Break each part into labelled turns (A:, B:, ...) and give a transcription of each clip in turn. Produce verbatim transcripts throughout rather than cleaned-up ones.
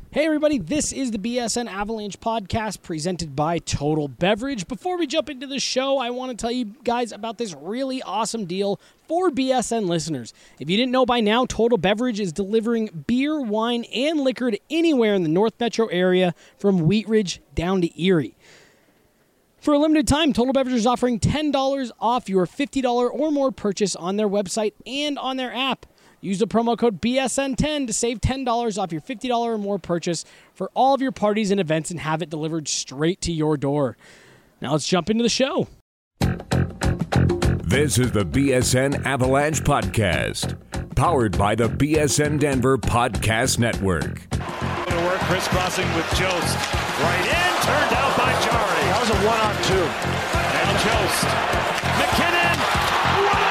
A: Hey everybody, this is the B S N Avalanche podcast presented by Total Beverage. Before we jump into the show, I want to tell you guys about this really awesome deal for B S N listeners. If you didn't know by now, Total Beverage is delivering beer, wine, and liquor to anywhere in the North Metro area from Wheat Ridge down to Erie. For a limited time, Total Beverage is offering ten dollars off your fifty dollars or more purchase on their website and on their app. Use the promo code B S N ten to save ten dollars off your fifty dollars or more purchase for all of your parties and events and have it delivered straight to your door. Now let's jump into the show.
B: This is the B S N Avalanche Podcast, powered by the B S N Denver Podcast Network.
C: To work, crisscrossing with Jost. Right in, turned out by Jari.
D: That was a one-on-two.
C: And Jost. McKinnon. What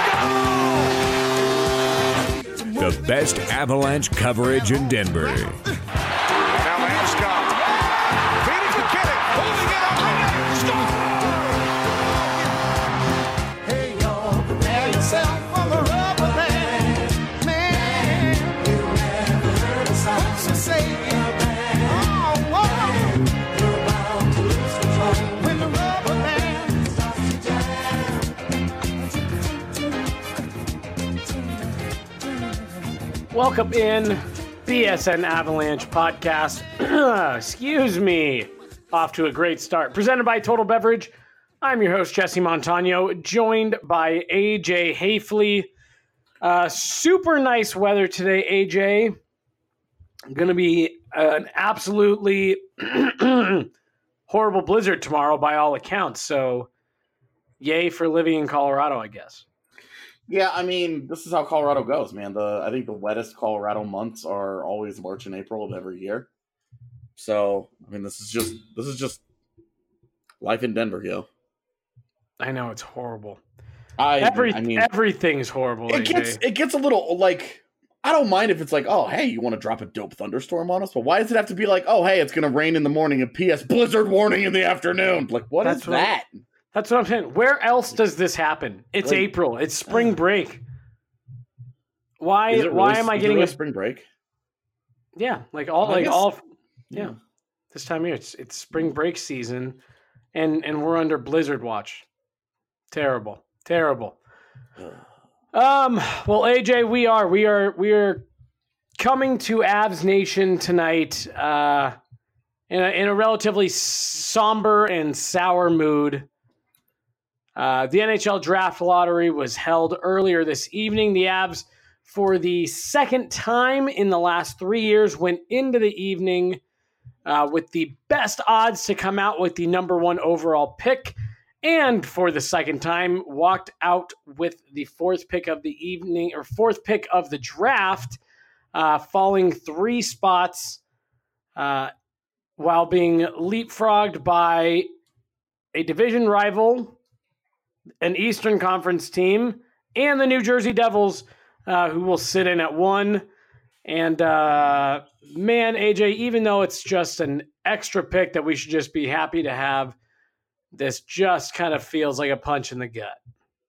C: a goal!
B: The best Avalanche coverage in Denver.
D: Now Landeskog. Feeding McKinnon. Holding it up. And hey, y'all, prepare yourself for the rubber band. Man, you never heard a sound so say it. Oh, whoa. You're bound to lose control when the rubber band starts to jam.
E: Welcome in, B S N Avalanche Podcast. Excuse me. Off to a great start. Presented by Total Beverage. I'm your host, Jesse Montano, joined by A J Hafley. Uh, super nice weather today, A J. Going to be an absolutely horrible blizzard tomorrow by all accounts. So, yay for living in Colorado, I guess.
F: Yeah, I mean, this is how Colorado goes, man. The I think the wettest Colorado months are always March and April of every year. So, I mean, this is just this is just life in Denver, yo.
E: I know, it's horrible.
F: I,
E: Every,
F: I mean,
E: everything's horrible.
F: it
E: A J.
F: gets it gets a little like I don't mind if it's like, oh, hey, you want to drop a dope thunderstorm on us? But why does it have to be like, oh, hey, it's gonna rain in the morning and P S blizzard warning in the afternoon? Like, what
E: That's
F: is
E: what-
F: that?
E: That's what I'm saying. Where else does this happen? It's
F: Like-
E: April. It's spring break. Why?
F: Is it
E: why
F: really-
E: am I
F: is it
E: getting
F: really
E: a
F: spring break?
E: yeah? Like all,
F: I
E: like
F: guess-
E: all, yeah.
F: Yeah.
E: This time of year, it's it's spring break season, and and we're under blizzard watch. Terrible, terrible. Um. Well, A J, we are we are we are coming to Avs Nation tonight. Uh, in a in a relatively somber and sour mood. Uh, the N H L Draft Lottery was held earlier this evening. The Avs, for the second time in the last three years, went into the evening uh, with the best odds to come out with the number one overall pick, and for the second time, walked out with the fourth pick of the evening or fourth pick of the draft, uh, falling three spots uh, while being leapfrogged by a division rival, an Eastern Conference team, and the New Jersey Devils, uh, who will sit in at one. And, uh, man, A J, even though it's just an extra pick that we should just be happy to have, this just kind of feels like a punch in the gut.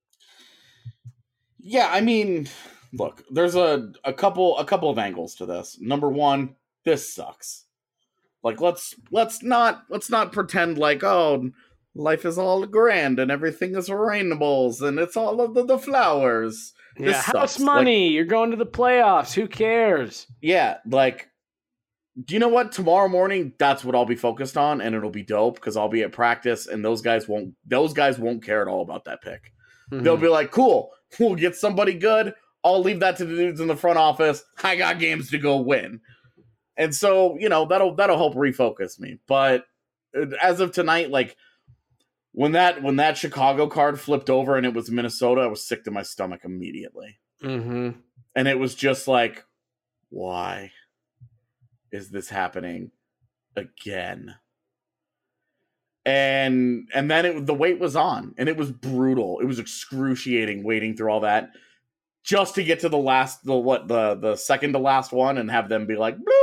F: Yeah, I mean, look, there's a, a couple a couple of angles to this. Number one, this sucks. Like, let's let's not let's not pretend like, oh, life is all grand and everything is rainbows and it's all of the, the flowers. This
E: Yeah, house
F: sucks.
E: money.
F: Like,
E: You're going to the playoffs. Who cares?
F: yeah, like, do you know what? Tomorrow morning, that's what I'll be focused on, and it'll be dope because I'll be at practice, and those guys won't. Those guys won't care at all about that pick.
E: Mhm.
F: They'll be like, "Cool, we'll get somebody good. I'll leave that to the dudes in the front office. I got games to go win." And so, you know, that'll that'll help refocus me. But as of tonight, like, When that when that Chicago card flipped over and it was Minnesota, I was sick to my stomach immediately.
E: Mm-hmm.
F: And it was just like, why is this happening again? And and then it, the wait was on, and it was brutal. It was excruciating waiting through all that just to get to the last, the what the the second to last one, and have them be like, bloop,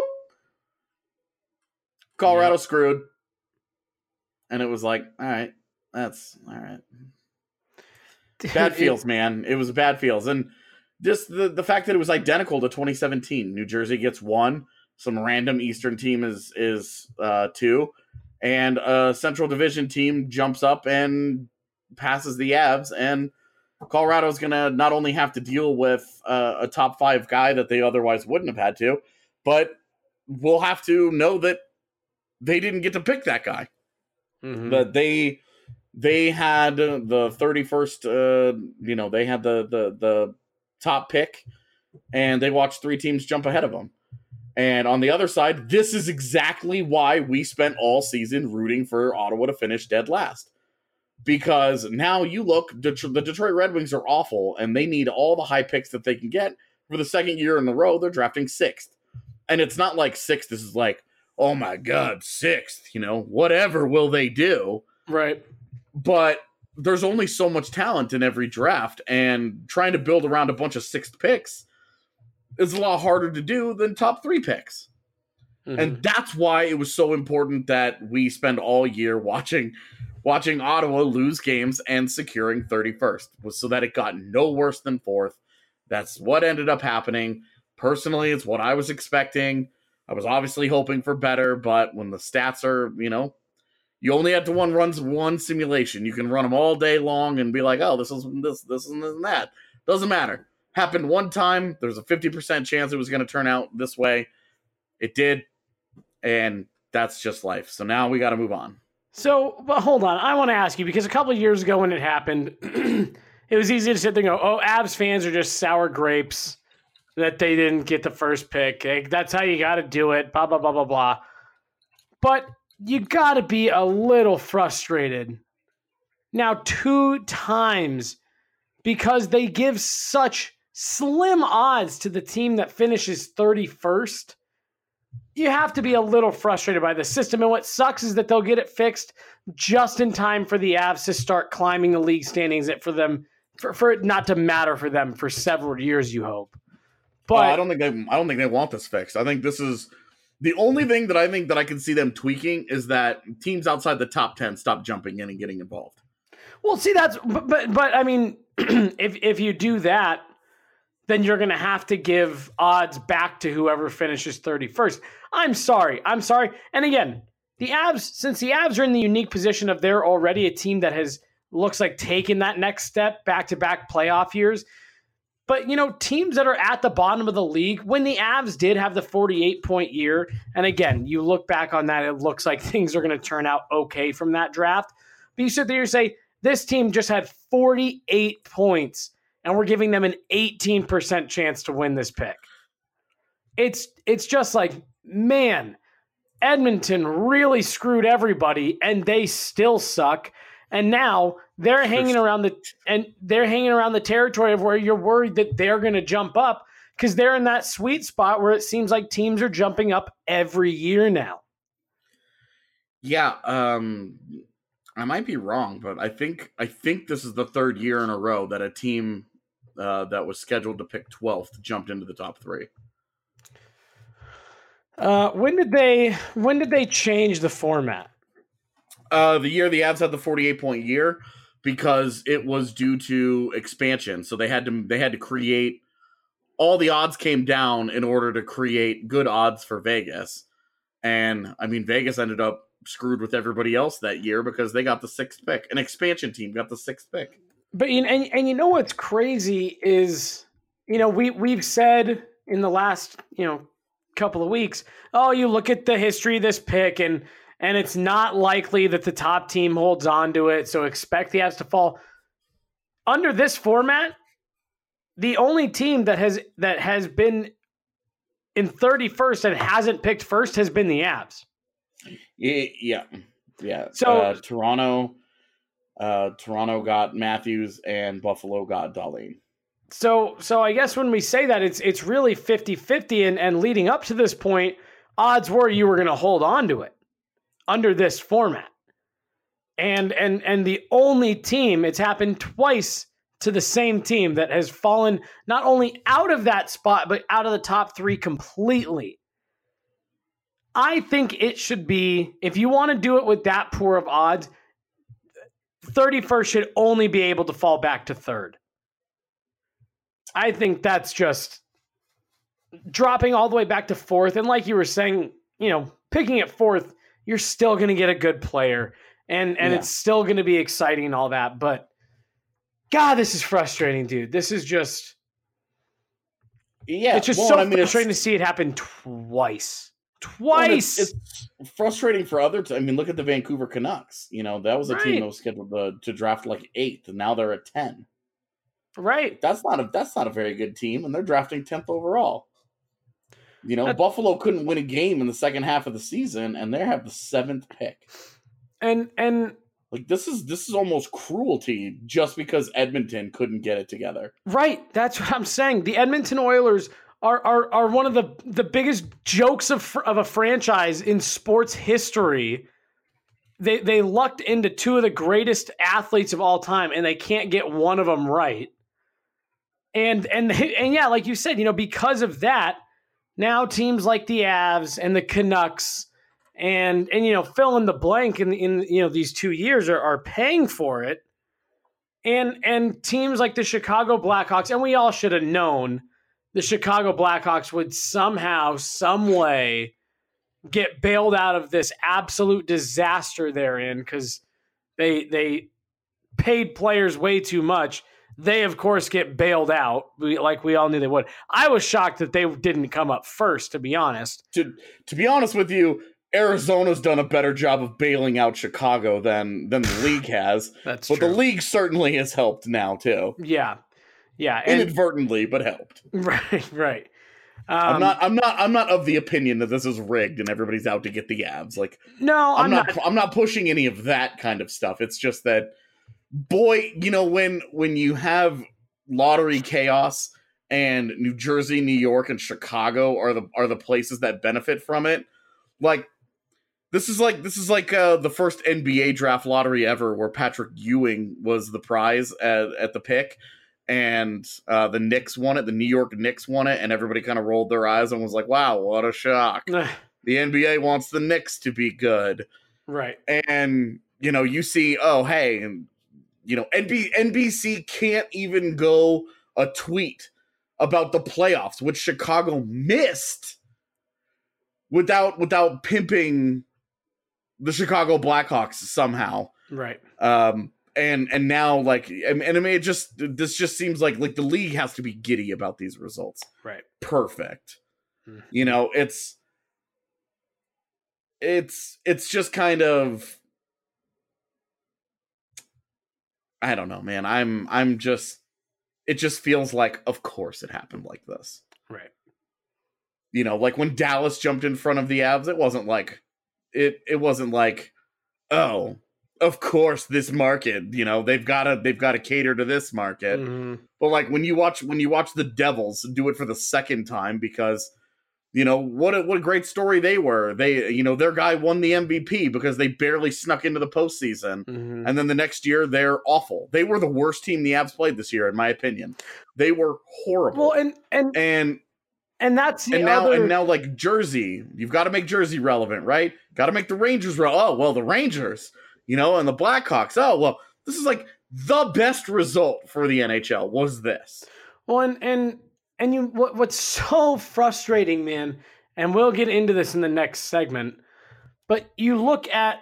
F: Colorado
E: Yep.
F: screwed. And it was like, all right, that's all right. Bad feels, man. It was bad feels. And just the, the fact that it was identical to twenty seventeen. New Jersey gets one, Some random Eastern team is is uh, two, and a Central Division team jumps up and passes the Avs, and Colorado's going to not only have to deal with uh, a top five guy that they otherwise wouldn't have had to, but we'll have to know that they didn't get to pick that guy. Mm-hmm. That they they had the thirty-first, uh, you know, they had the, the the top pick, and they watched three teams jump ahead of them. And on the other side, this is exactly why we spent all season rooting for Ottawa to finish dead last. Because now you look, Det- the Detroit Red Wings are awful, and they need all the high picks that they can get. For the second year in a row, they're drafting sixth. And it's not like sixth, this is like, oh my God, sixth, you know, whatever will they do?
E: Right.
F: But there's only so much talent in every draft, and trying to build around a bunch of sixth picks is a lot harder to do than top three picks. Mm-hmm. And that's why it was so important that we spend all year watching watching Ottawa lose games and securing thirty-first, was so that it got no worse than fourth. That's what ended up happening. Personally, it's what I was expecting. I was obviously hoping for better, but when the stats are, you know, you only have to one runs one simulation. You can run them all day long and be like, oh, this is this, this and that. Doesn't matter. Happened one time. There's a fifty percent chance it was going to turn out this way. It did. And that's just life. So now we got to move on.
E: So, but hold on. I want to ask you, because a couple of years ago when it happened, it was easy to sit there and go, oh, Avs fans are just sour grapes that they didn't get the first pick. Like, that's how you got to do it, blah, blah, blah, blah, blah. But you got to be a little frustrated now two times because they give such slim odds to the team that finishes thirty-first. You have to be a little frustrated by the system. And what sucks is that they'll get it fixed just in time for the Avs to start climbing the league standings, for them, for, for it not to matter for them for several years, you hope. But
F: oh, I don't think they I don't think they want this fixed. I think this is the only thing that I think that I can see them tweaking is that teams outside the top ten stop jumping in and getting involved.
E: Well, see, that's but but, but I mean, if if you do that, then you're going to have to give odds back to whoever finishes thirty-first. I'm sorry. I'm sorry. And again, the Avs, since the Avs are in the unique position of they're already a team that has, looks like, taken that next step, back-to-back playoff years. But, you know, teams that are at the bottom of the league, when the Avs did have the forty-eight point year, and again, you look back on that, it looks like things are going to turn out okay from that draft. But you sit there and say, this team just had forty-eight points, and we're giving them an eighteen percent chance to win this pick. It's it's just like, man, Edmonton really screwed everybody, and they still suck. And now they're hanging around the and they're hanging around the territory of where you're worried that they're going to jump up, because they're in that sweet spot where it seems like teams are jumping up every year now.
F: Yeah, um, I might be wrong, but I think I think this is the third year in a row that a team uh, that was scheduled to pick twelfth jumped into the top three.
E: Uh, when did they when did they change the format?
F: Uh, the year the Avs had the forty-eight point year, because it was due to expansion. So they had to they had to create, all the odds came down in order to create good odds for Vegas. And I mean, Vegas ended up screwed with everybody else that year because they got the sixth pick. An expansion team got the sixth pick.
E: But and and you know what's crazy is, you know, we we've said in the last, you know, couple of weeks, oh, you look at the history of this pick, and and it's not likely that the top team holds on to it, so expect the Avs to fall. Under this format, the only team that has that has been in thirty-first and hasn't picked first has been the Avs.
F: Yeah, yeah.
E: So
F: uh, Toronto, uh, Toronto got Matthews, and Buffalo got Dahlin.
E: So so I guess when we say that, it's it's really fifty-fifty, and, and leading up to this point, odds were you were going to hold on to it under this format. And and and the only team, it's happened twice to the same team, that has fallen not only out of that spot, but out of the top three completely. I think it should be, if you want to do it with that poor of odds, thirty-first should only be able to fall back to third. I think that's just dropping all the way back to fourth. And like you were saying, you know, picking at fourth, you're still going to get a good player. And and
F: Yeah.
E: it's still going to be exciting and all that. But, God, this is frustrating, dude. This is just...
F: Yeah,
E: It's just
F: well,
E: so
F: I mean,
E: frustrating
F: it's,
E: to see it happen twice.
F: well, and
E: Twice!
F: it's, it's frustrating for other. T- I mean, look at the Vancouver Canucks. You know, that was a
E: Right.
F: team that was scheduled to, to draft like eighth, and now they're at ten.
E: right.
F: That's not a that's not a very good team, and they're drafting tenth overall. You know,
E: That-
F: Buffalo couldn't win a game in the second half of the season, and they have the seventh pick.
E: And and
F: Like this is this is almost cruelty just because Edmonton couldn't get it together.
E: right, that's what I'm saying. The Edmonton Oilers are are are one of the the biggest jokes of fr- of a franchise in sports history. They they lucked into two of the greatest athletes of all time, and they can't get one of them right. And and and yeah, like you said, you know, because of that, now teams like the Avs and the Canucks and and you know, fill in the blank in in you know these two years are, are paying for it. And and teams like the Chicago Blackhawks, and we all should have known the Chicago Blackhawks would somehow, some way get bailed out of this absolute disaster they're in because they they paid players way too much. They, of course, get bailed out we, like we all knew they would. I was shocked that they didn't come up first, to be honest.
F: To to be honest with you, Arizona's done a better job of bailing out Chicago than than the league has.
E: That's
F: but
E: true.
F: the league certainly has helped now too.
E: Yeah. Yeah. And,
F: Inadvertently, but helped.
E: right, right. Um,
F: I'm not I'm not I'm not of the opinion that this is rigged and everybody's out to get the Avs. Like
E: No,
F: I'm,
E: I'm,
F: not,
E: not.
F: I'm not pushing any of that kind of stuff. It's just that boy, you know, when when you have lottery chaos and New Jersey, New York, and Chicago are the are the places that benefit from it, like this is like this is like uh, the first N B A draft lottery ever where Patrick Ewing was the prize at, at the pick. And uh, the Knicks won it. The New York Knicks won it, and everybody kind of rolled their eyes and was like, "Wow, what a shock!" The N B A wants the Knicks to be good,
E: Right.
F: and you know, you see, oh, hey, and you know, N B- N B C can't even go a tweet about the playoffs, which Chicago missed, without without pimping the Chicago Blackhawks somehow.
E: Right.
F: Um, and and now like and, and I mean it just this just seems like like the league has to be giddy about these results.
E: Right.
F: Perfect.
E: Mhm.
F: You know, it's it's it's just kind of I don't know, man. I'm I'm just it just feels like of course it happened like this.
E: Right.
F: You know, like when Dallas jumped in front of the Avs, it wasn't like it it wasn't like, oh, of course this market, you know, they've got to they've got to cater to this market.
E: Mhm.
F: But like when you watch when you watch the Devils do it for the second time because you know what a, what a great story they were. They you know their guy won the M V P because they barely snuck into the postseason.
E: Mhm.
F: And then the next year they're awful. They were the worst team the Avs played this year in my opinion. They were horrible.
E: Well, and and
F: and
E: and that's the
F: and now
E: other.
F: and now like Jersey, you've got to make Jersey relevant, right? Got to make the Rangers re- oh well the Rangers, you know, and the Blackhawks. Oh well, this is like the best result for the N H L was this.
E: Well, and and and you what what's so frustrating, man, and we'll get into this in the next segment. But you look at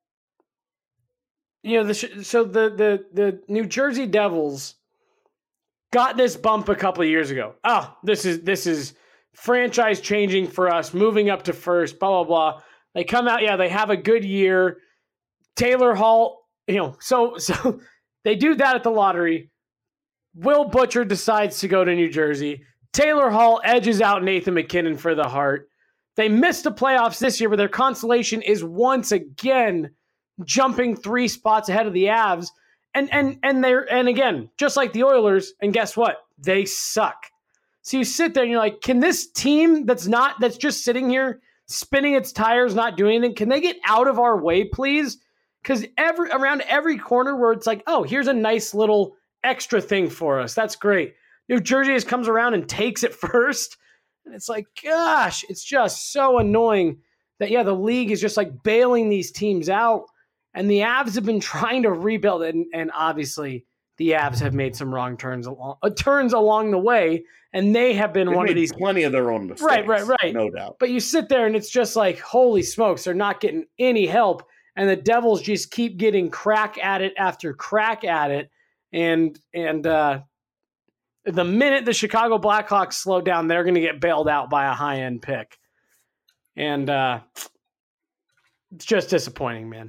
E: you know the sh- so the the the New Jersey Devils got this bump a couple of years ago. Oh, this is this is franchise changing for us, moving up to first, blah blah blah. They come out, yeah, they have a good year. Taylor Hall, you know, so so they do that at the lottery. Will Butcher decides to go to New Jersey. Taylor Hall edges out Nathan McKinnon for the Hart. They missed the playoffs this year, but their consolation is once again jumping three spots ahead of the Avs. And and and they're and again, just like the Oilers, and guess what? They suck. So you sit there and you're like, can this team that's not that's just sitting here spinning its tires, not doing anything, can they get out of our way, please? Because every around every corner where it's like, oh, here's a nice little extra thing for us. That's great. New Jersey just comes around and takes it first. And it's like, gosh, it's just so annoying that, yeah, the league is just like bailing these teams out. And the Avs have been trying to rebuild it. And, and obviously the Avs have made some wrong turns along uh, turns along the way, and they have been
F: They've
E: one of
F: made
E: these.
F: plenty of their own mistakes.
E: Right, right, right.
F: No doubt.
E: But you sit there and it's just like, holy smokes, they're not getting any help, and the Devils just keep getting crack at it after crack at it, and and uh, the minute the Chicago Blackhawks slow down, they're going to get bailed out by a high end pick, and uh, it's just disappointing, man.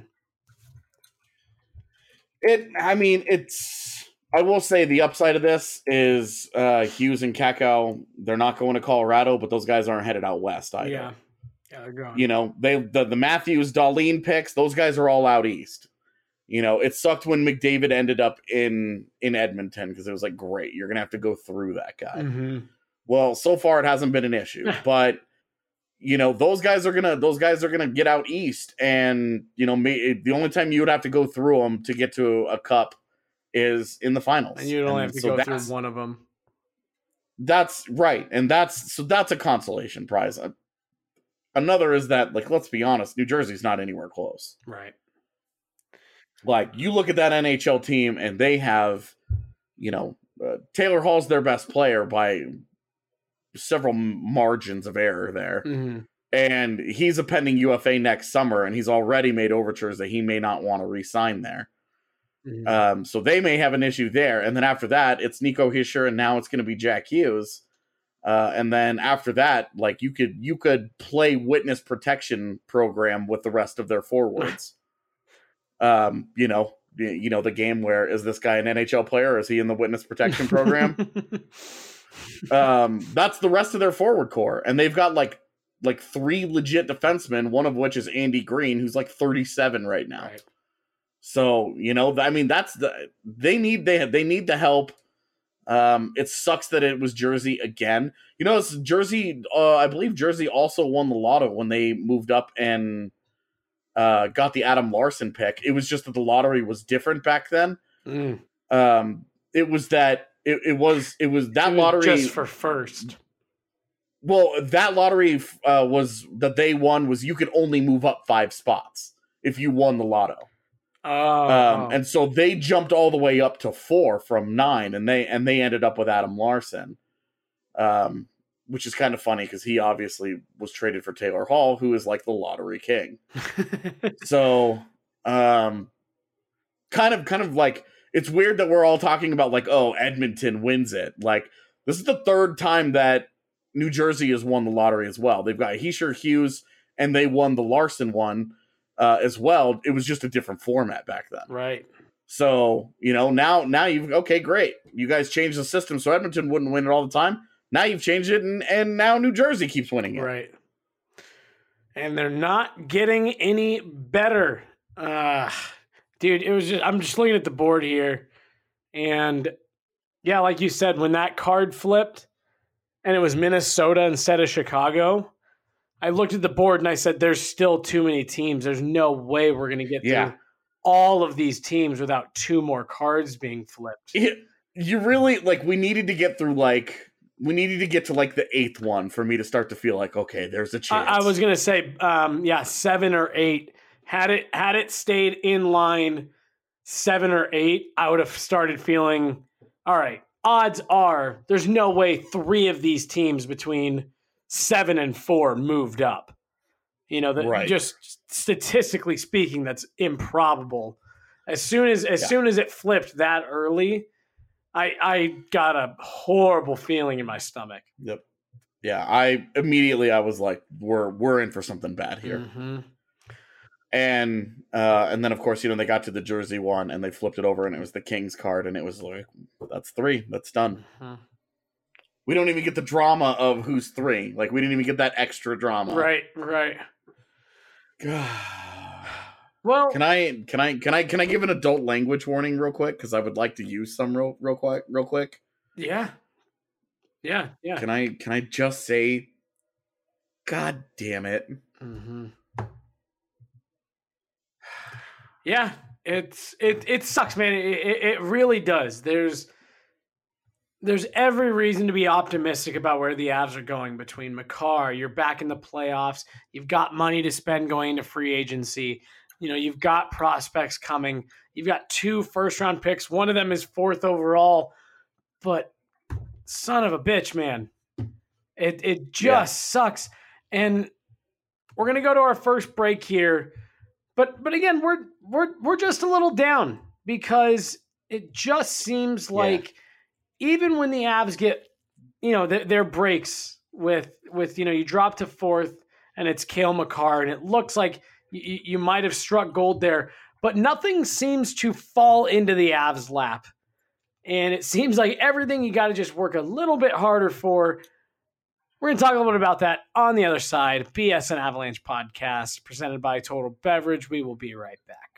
F: It. I mean, it's. I will say the upside of this is uh, Hughes and Kakao. They're not going to Colorado, but those guys aren't headed out west either.
E: Yeah, yeah, they're going.
F: You know, they the, the Matthews, Darlene picks. Those guys are all out east. You know, it sucked when McDavid ended up in in Edmonton because it was like, great, you're gonna have to go through that guy.
E: Mm-hmm.
F: Well, so far it hasn't been an issue, but you know, those guys are gonna those guys are gonna get out east, and you know, may, the only time you would have to go through them to get to a cup is in the finals,
E: And you'd only
F: and
E: have to
F: so
E: go
F: that's,
E: through one of them.
F: That's right, and that's so that's a consolation prize. Another is that, like, let's be honest, New Jersey's not anywhere close.
E: Right.
F: Like, you look at that N H L team, and they have, you know, uh, Taylor Hall's their best player by several margins of error there.
E: Mm-hmm.
F: And he's a pending U F A next summer, and he's already made overtures that he may not want to re-sign there.
E: Mm-hmm.
F: Um, so they may have an issue there. And then after that, it's Nico Hischier, and now it's going to be Jack Hughes. Uh, and then after that, like, you could you could play witness protection program with the rest of their forwards. um, you know, you know the game where, is this guy an N H L player, or is he in the witness protection program? um, that's the rest of their forward core, and they've got like like three legit defensemen, one of which is Andy Green, who's like thirty-seven right now.
E: Right.
F: So, you know, I mean, that's the they need they they need the help. Um, it sucks that it was Jersey again. You know, it's Jersey. Uh, I believe Jersey also won the lotto when they moved up and uh, got the Adam Larson pick. It was just that the lottery was different back then.
E: Mm.
F: Um, it was that it, it was it was that
E: It was
F: lottery
E: just for first.
F: Well, that lottery uh, was that they won was you could only move up five spots if you won the lotto.
E: Oh,
F: Um, and so they jumped all the way up to four from nine, and they and they ended up with Adam Larson, um, which is kind of funny because he obviously was traded for Taylor Hall, who is like the lottery king. So, um, kind of, kind of like, it's weird that we're all talking about like, oh, Edmonton wins it. Like, this is the third time that New Jersey has won the lottery as well. They've got Hischier, Hughes, and they won the Larson one. Uh, as well. It was just a different format back then.
E: right.
F: So, you know, now now you've okay, great. You guys changed the system so Edmonton wouldn't win it all the time. Now you've changed it, and, and now New Jersey keeps winning it.
E: Right. And they're not getting any better. Uh, dude, it was just, I'm just looking at the board here. And yeah, like you said, when that card flipped and it was Minnesota instead of Chicago, I looked at the board and I said, there's still too many teams. There's no way we're going to get
F: Yeah.
E: through all of these teams without two more cards being flipped.
F: It, you really, like, we needed to get through, like, we needed to get to, like, the eighth one for me to start to feel like, okay, there's a chance.
E: I, I was going to say, um, yeah, seven or eight. Had it, had it stayed in line seven or eight, I would have started feeling, all right, odds are there's no way three of these teams between seven and four moved up. You know, that
F: Right.
E: just statistically speaking, that's improbable. As soon as as
F: Yeah.
E: soon as it flipped that early, I I got a horrible feeling in my stomach.
F: Yep. Yeah, I immediately I was like, we're we're in for something bad here.
E: Mm-hmm.
F: And uh, and then of course, you know, they got to the Jersey one and they flipped it over and it was the Kings card, and it was like, that's three, that's done.
E: Mhm.
F: We don't even get the drama of who's three. Like, we didn't even get that extra drama.
E: Right, right. Well,
F: Can I can I can I can I give an adult language warning real quick? Because I would like to use some real real quick real quick.
E: yeah, yeah, yeah.
F: Can I can I just say, God damn it.
E: Mm-hmm. Yeah, it's it it sucks, man. It, it it really does. There's there's every reason to be optimistic about where the Avs are going. Between Makar, you're back in the playoffs. You've got money to spend going into free agency. You know, you've got prospects coming. You've got two first round picks. One of them is fourth overall, but son of a bitch, man. It it just yeah. sucks. And we're going to go to our first break here. But but again, we're we're we're just a little down because it just seems like yeah. even when the Avs get, you know, th- their breaks with with, you know, you drop to fourth and it's Cale Makar and it looks like you, you might have struck gold there, but nothing seems to fall into the Avs lap. And it seems like everything you got to just work a little bit harder for. We're going to talk a little bit about that on the other side. B S N Avalanche podcast presented by Total Beverage. We will be right back.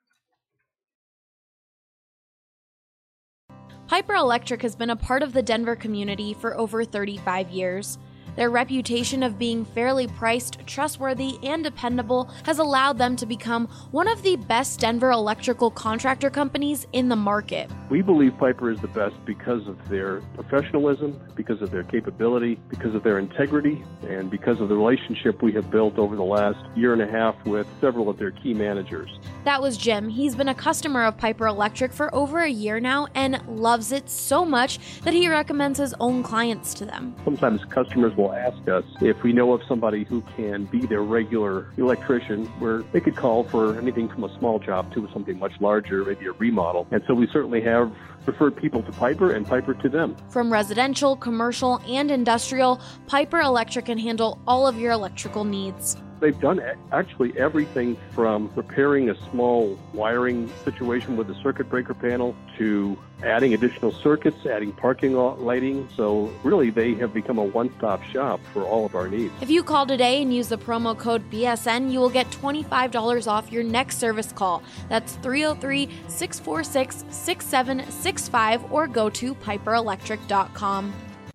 G: Piper Electric has been a part of the Denver community for over thirty-five years. Their reputation of being fairly priced, trustworthy, and dependable has allowed them to become one of the best Denver electrical contractor companies in the market.
H: We believe Piper is the best because of their professionalism, because of their capability, because of their integrity, and because of the relationship we have built over the last year and a half with several of their key managers.
G: That was Jim. He's been a customer of Piper Electric for over a year now and loves it so much that he recommends his own clients to them.
H: Sometimes customers will ask us if we know of somebody who can be their regular electrician, where they could call for anything from a small job to something much larger, maybe a remodel. And so we certainly have referred people to Piper and Piper to them.
G: From residential, commercial, and industrial, Piper Electric can handle all of your electrical needs.
H: They've done actually everything from repairing a small wiring situation with a circuit breaker panel to adding additional circuits, adding parking lot lighting. So really, they have become a one-stop shop for all of our needs.
G: If you call today and use the promo code B S N, you will get twenty-five dollars off your next service call. That's three oh three, six four six, six seven six five or go to piper electric dot com.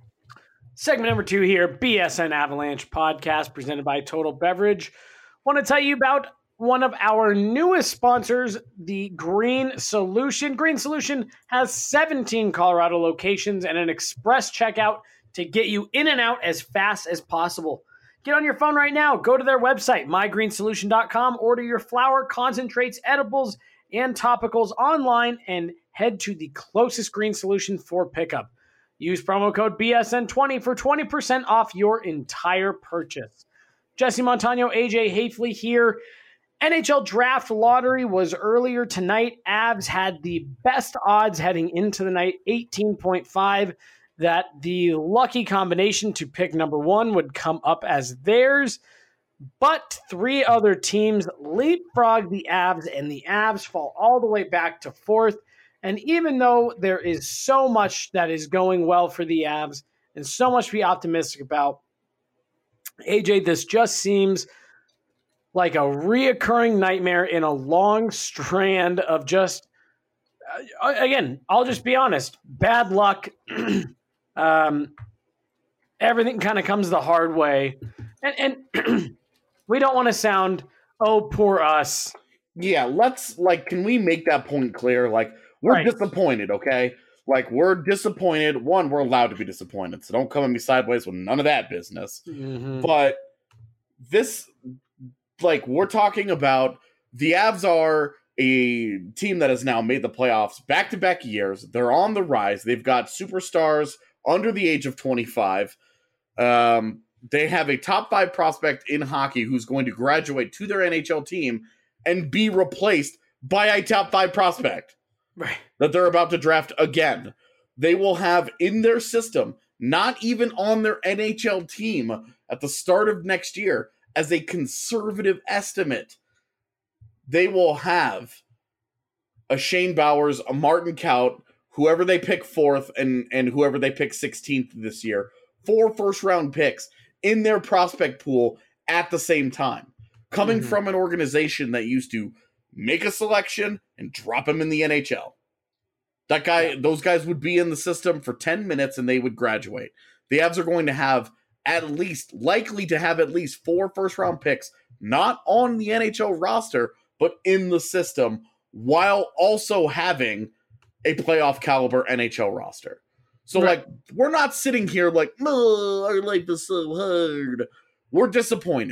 E: Segment number two here, B S N Avalanche podcast presented by Total Beverage. Want to tell you about one of our newest sponsors, the Green Solution. Green Solution has seventeen Colorado locations and an express checkout to get you in and out as fast as possible. Get on your phone right now. Go to their website, my green solution dot com. Order your flour, concentrates, edibles, and topicals online and head to the closest Green Solution for pickup. Use promo code B S N twenty for twenty percent off your entire purchase. Jesse Montano, A J Hafley here. N H L Draft Lottery was earlier tonight. Avs had the best odds heading into the night, eighteen point five, that the lucky combination to pick number one would come up as theirs. But three other teams leapfrog the Avs, and the Avs fall all the way back to fourth. And even though there is so much that is going well for the Avs and so much to be optimistic about, A J, this just seems like a reoccurring nightmare in a long strand of just, uh, again, I'll just be honest, bad luck. um, everything kind of comes the hard way. And, and we don't want to sound, oh, poor us.
F: Yeah, let's, like, can we make that point clear? Like, we're right. disappointed, okay? Like, we're disappointed. One, we're allowed to be disappointed, so don't come at me sideways with none of that business.
E: Mm-hmm.
F: But this, like, we're talking about the Avs are a team that has now made the playoffs back-to-back years. They're on the rise. They've got superstars under the age of twenty-five. Um, they have a top five prospect in hockey who's going to graduate to their N H L team and be replaced by a top five prospect.
E: Right.
F: That they're about to draft again. They will have in their system, not even on their N H L team at the start of next year, as a conservative estimate, they will have a Shane Bowers, a Martin Kaut, whoever they pick fourth, and, and whoever they pick sixteenth this year, four first-round picks in their prospect pool at the same time, coming mm-hmm. from an organization that used to make a selection and drop him in the N H L. That guy, those guys would be in the system for ten minutes and they would graduate. The Avs are going to have at least, likely to have at least four first round picks, not on the N H L roster, but in the system, while also having a playoff caliber N H L roster. So right. like, we're not sitting here like, oh, our life is so hard. We're disappointed.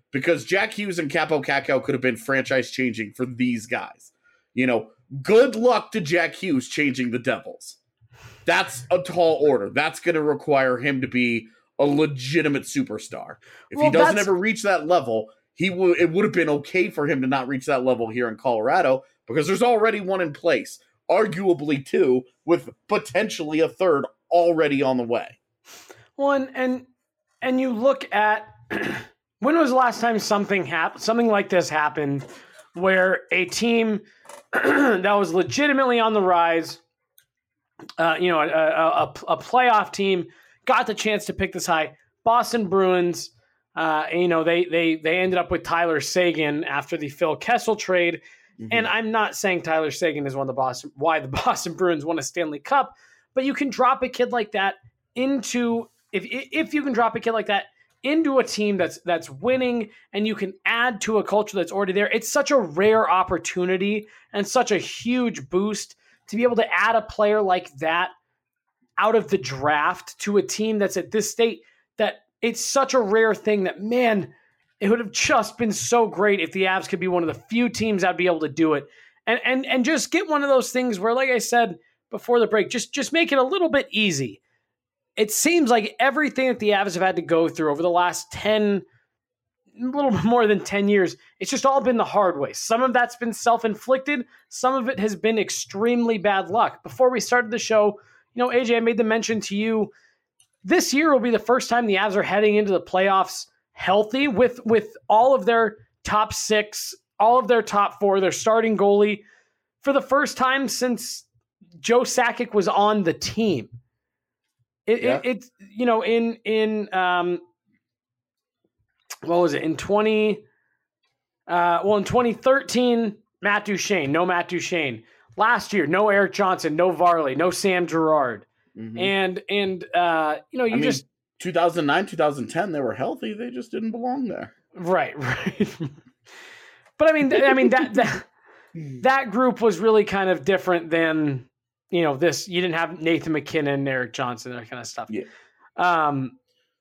F: because Jack Hughes and Capo Cacao could have been franchise changing for these guys. You know, good luck to Jack Hughes changing the Devils. That's a tall order. That's going to require him to be a legitimate superstar. If
E: Well,
F: he doesn't
E: that's-
F: ever reach that level, he would. It would have been okay for him to not reach that level here in Colorado because there's already one in place, arguably two, with potentially a third already on the way.
E: Well, and and, and you look at when was the last time something happened, something like this happened, where a team that was legitimately on the rise, uh, you know, a, a, a playoff team got the chance to pick this high. Boston Bruins, uh, you know, they they they ended up with Tyler Seguin after the Phil Kessel trade. Mm-hmm. And I'm not saying Tyler Seguin is one of the Boston why the Boston Bruins won a Stanley Cup, but you can drop a kid like that into if if you can drop a kid like that into a team that's that's winning and you can add to a culture that's already there. It's such a rare opportunity and such a huge boost to be able to add a player like that out of the draft to a team that's at this state, that it's such a rare thing that, man, it would have just been so great if the Avs could be one of the few teams that'd be able to do it. And and and just get one of those things where, like I said before the break, just, just make it a little bit easy. It seems like everything that the Avs have had to go through over the last ten, a little bit more than ten years, it's just all been the hard way. Some of that's been self-inflicted. Some of it has been extremely bad luck. Before we started the show, you know, A J, I made the mention to you, this year will be the first time the Avs are heading into the playoffs healthy with, with all of their top six, all of their top four, their starting goalie, for the first time since Joe Sakic was on the team. It,
F: Yeah.
E: it, it's, you know, in, in, um, what was it? In twenty, uh, well, in twenty thirteen, Matt Duchene, no Matt Duchene. Last year, no Eric Johnson, no Varley, no Sam Girard.
F: Mm-hmm.
E: And, and, uh, you know, you
F: I mean,
E: just,
F: two thousand nine, two thousand ten, they were healthy. They just didn't belong there.
E: right, right. But I mean, th- I mean, that, that, that group was really kind of different than, you know, this, you didn't have Nathan McKinnon, Eric Johnson, that kind of stuff.
F: Yeah.
E: Um,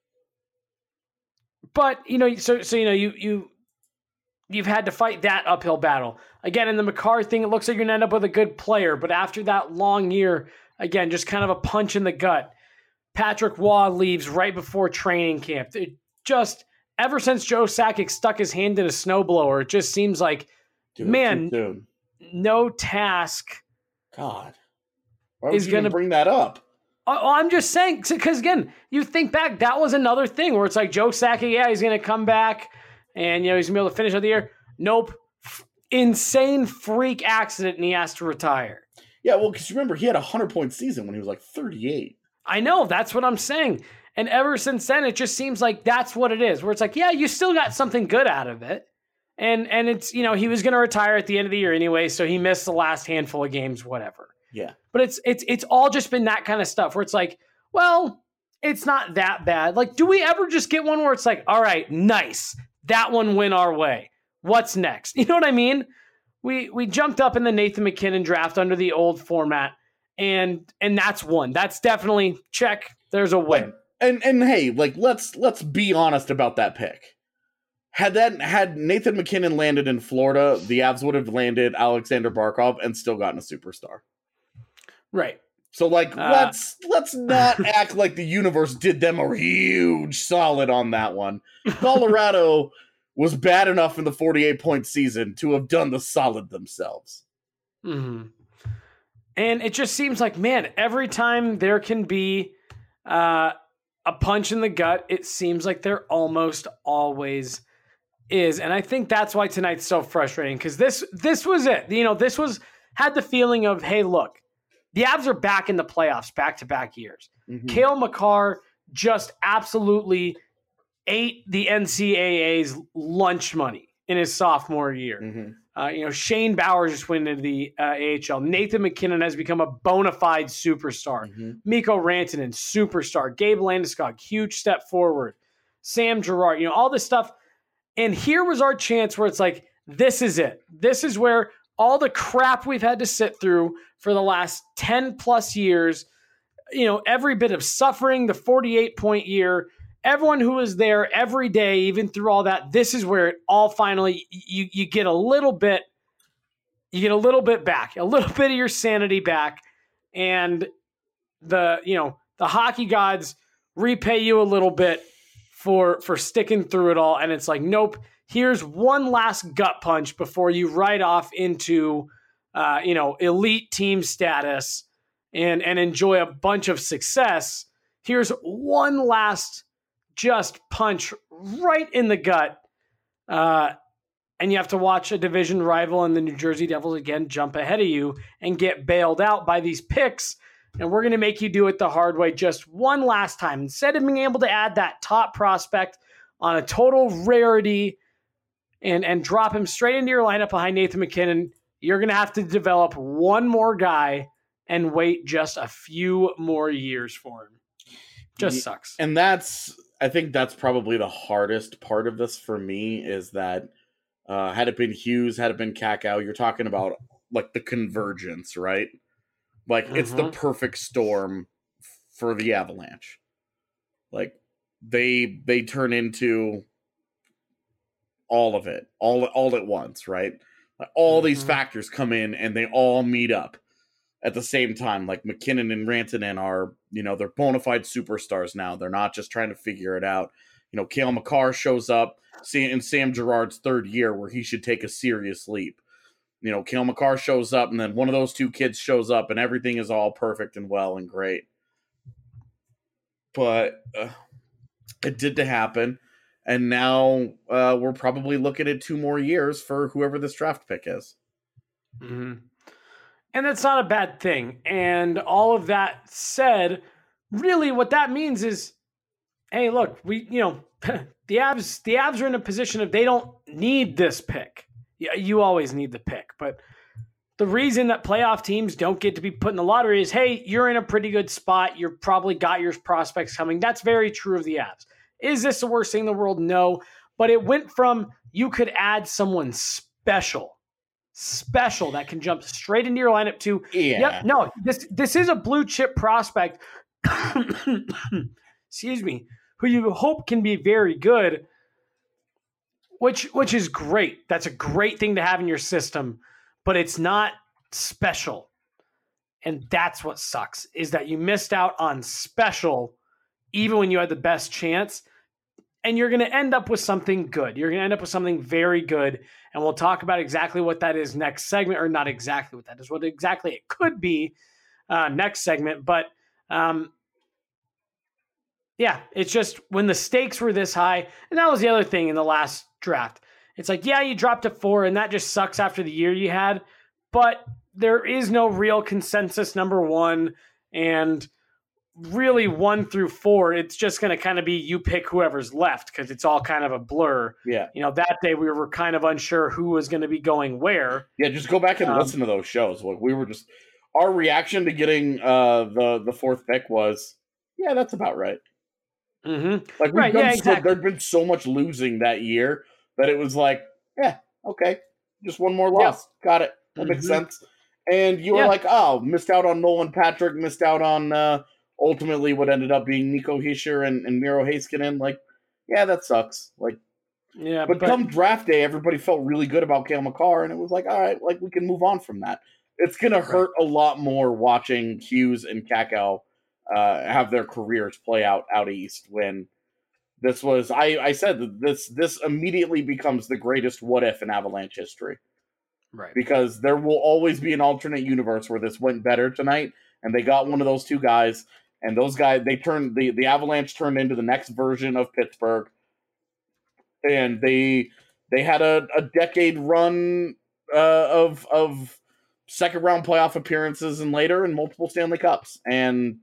E: but you know, so, so, you know, you, you, you've had to fight that uphill battle again in the Makar thing. It looks like you're gonna end up with a good player, but after that long year, again, just kind of a punch in the gut. Patrick Waugh leaves right before training camp. It just, ever since Joe Sakic stuck his hand in a snowblower, it just seems like,
F: Dude,
E: man,
F: dude.
E: no task
F: God. Why would
E: is
F: you
E: gonna
F: even bring that up?
E: Oh, I'm just saying, because again, you think back, that was another thing where it's like Joe Sakic, yeah, he's going to come back and, you know, he's going to be able to finish out the year. Nope. F- insane freak accident and he has to retire.
F: Yeah, well, because remember, he had a one hundred point season when he was like thirty-eight.
E: I know, that's what I'm saying. And ever since then, it just seems like that's what it is, where it's like, yeah, you still got something good out of it. And, and it's, you know, he was going to retire at the end of the year anyway, so he missed the last handful of games, whatever.
F: Yeah.
E: But it's it's it's all just been that kind of stuff where it's like, well, it's not that bad. Like, do we ever just get one where it's like, all right, nice, that one went our way. What's next? You know what I mean? We we jumped up in the Nathan McKinnon draft under the old format, and and that's one. That's definitely check. There's a win.
F: And and hey, like let's let's be honest about that pick. Had that had Nathan McKinnon landed in Florida, the Avs would have landed Alexander Barkov and still gotten a superstar.
E: Right.
F: So like
E: Uh,
F: let's let's not act like the universe did them a huge solid on that one. Colorado was bad enough in the forty-eight point season to have done the solid themselves.
E: Mm-hmm. And it just seems like, man, every time there can be uh, a punch in the gut, it seems like there almost always is. And I think that's why tonight's so frustrating, because this this was it. You know, this was had the feeling of, hey, look, the Avs are back in the playoffs back-to-back years.
F: Mm-hmm.
E: Cale Makar just absolutely ate the N C double A's lunch money in his sophomore year.
F: Mm-hmm.
E: Uh, you know, Shane Bauer just went into the uh, A H L. Nathan McKinnon has become a bona fide superstar.
F: Mm-hmm.
E: Mikko Rantanen, superstar. Gabe Landeskog, huge step forward. Sam Girard, you know, all this stuff. And here was our chance where it's like, this is it. This is where all the crap we've had to sit through for the last ten plus years, you know, every bit of suffering, the forty-eight point year, everyone who was there every day, even through all that, this is where it all finally, you, you get a little bit, you get a little bit back, a little bit of your sanity back. And the, you know, the hockey gods repay you a little bit for, for sticking through it all. And it's like, nope, here's one last gut punch before you ride off into, uh, you know, elite team status and, and enjoy a bunch of success. Here's one last just punch right in the gut. Uh, and you have to watch a division rival and the New Jersey Devils again jump ahead of you and get bailed out by these picks. And we're going to make you do it the hard way just one last time. Instead of being able to add that top prospect on a total rarity and, and drop him straight into your lineup behind Nathan MacKinnon, you're going to have to develop one more guy and wait just a few more years for him. Just sucks.
F: And that's, I think that's probably the hardest part of this for me is that uh, had it been Hughes, had it been Kakao, you're talking about like the convergence, right? Like mm-hmm. It's the perfect storm for the Avalanche. Like they they turn into all of it, all all at once, right? Like, all mm-hmm. these factors come in and they all meet up at the same time. Like McKinnon and Rantanen are, you know, they're bona fide superstars now. They're not just trying to figure it out. You know, Cale Makar shows up in Sam Girard's third year where he should take a serious leap. You know, Cale Makar shows up, and then one of those two kids shows up, and everything is all perfect and well and great. But uh, it did to happen, and now uh, we're probably looking at two more years for whoever this draft pick is.
E: Mm-hmm. And that's not a bad thing. And all of that said, really what that means is, hey, look, we, you know, the Avs, the Avs are in a position of they don't need this pick. Yeah, you always need the pick, but the reason that playoff teams don't get to be put in the lottery is, hey, you're in a pretty good spot. You've probably got your prospects coming. That's very true of the Avs. Is this the worst thing in the world? No, but it went from you could add someone special, special that can jump straight into your lineup to,
F: yeah.
E: Yep, no, this this is a blue chip prospect, excuse me, who you hope can be very good. Which which is great. That's a great thing to have in your system, but it's not special. And that's what sucks, is that you missed out on special even when you had the best chance, and you're going to end up with something good. You're going to end up with something very good, and we'll talk about exactly what that is next segment, or not exactly what that is, what exactly it could be uh, next segment. But um, yeah, it's just when the stakes were this high, and that was the other thing in the last draft. It's like, yeah, you dropped to four, and that just sucks after the year you had, but there is no real consensus number one, and really one through four, it's just going to kind of be you pick whoever's left because it's all kind of a blur.
F: Yeah.
E: You know, that day we were kind of unsure who was going to be going where.
F: Yeah, just go back and um, listen to those shows. Like we were just, our reaction to getting uh, the, the fourth pick was, yeah, that's about right.
E: Mm-hmm.
F: Like we've
E: right,
F: done
E: yeah,
F: so,
E: exactly.
F: There'd been so much losing that year that it was like, yeah, okay, just one more loss, yeah. Got it. That mm-hmm. makes sense. And you were yeah. like, oh, missed out on Nolan Patrick, missed out on uh, ultimately what ended up being Nico Hischier and, and Miro Heiskanen. Like, yeah, that sucks. Like,
E: yeah,
F: but, but come draft day, everybody felt really good about Cale Makar, and it was like, all right, like we can move on from that. It's gonna hurt right. a lot more watching Hughes and Kakao Uh, have their careers play out out east when this was I, I said that this this immediately becomes the greatest what if in Avalanche history.
E: Right.
F: Because there will always be an alternate universe where this went better tonight and they got one of those two guys and those guys they turned the, the Avalanche turned into the next version of Pittsburgh. And they they had a, a decade run uh, of of second round playoff appearances and later and multiple Stanley Cups. And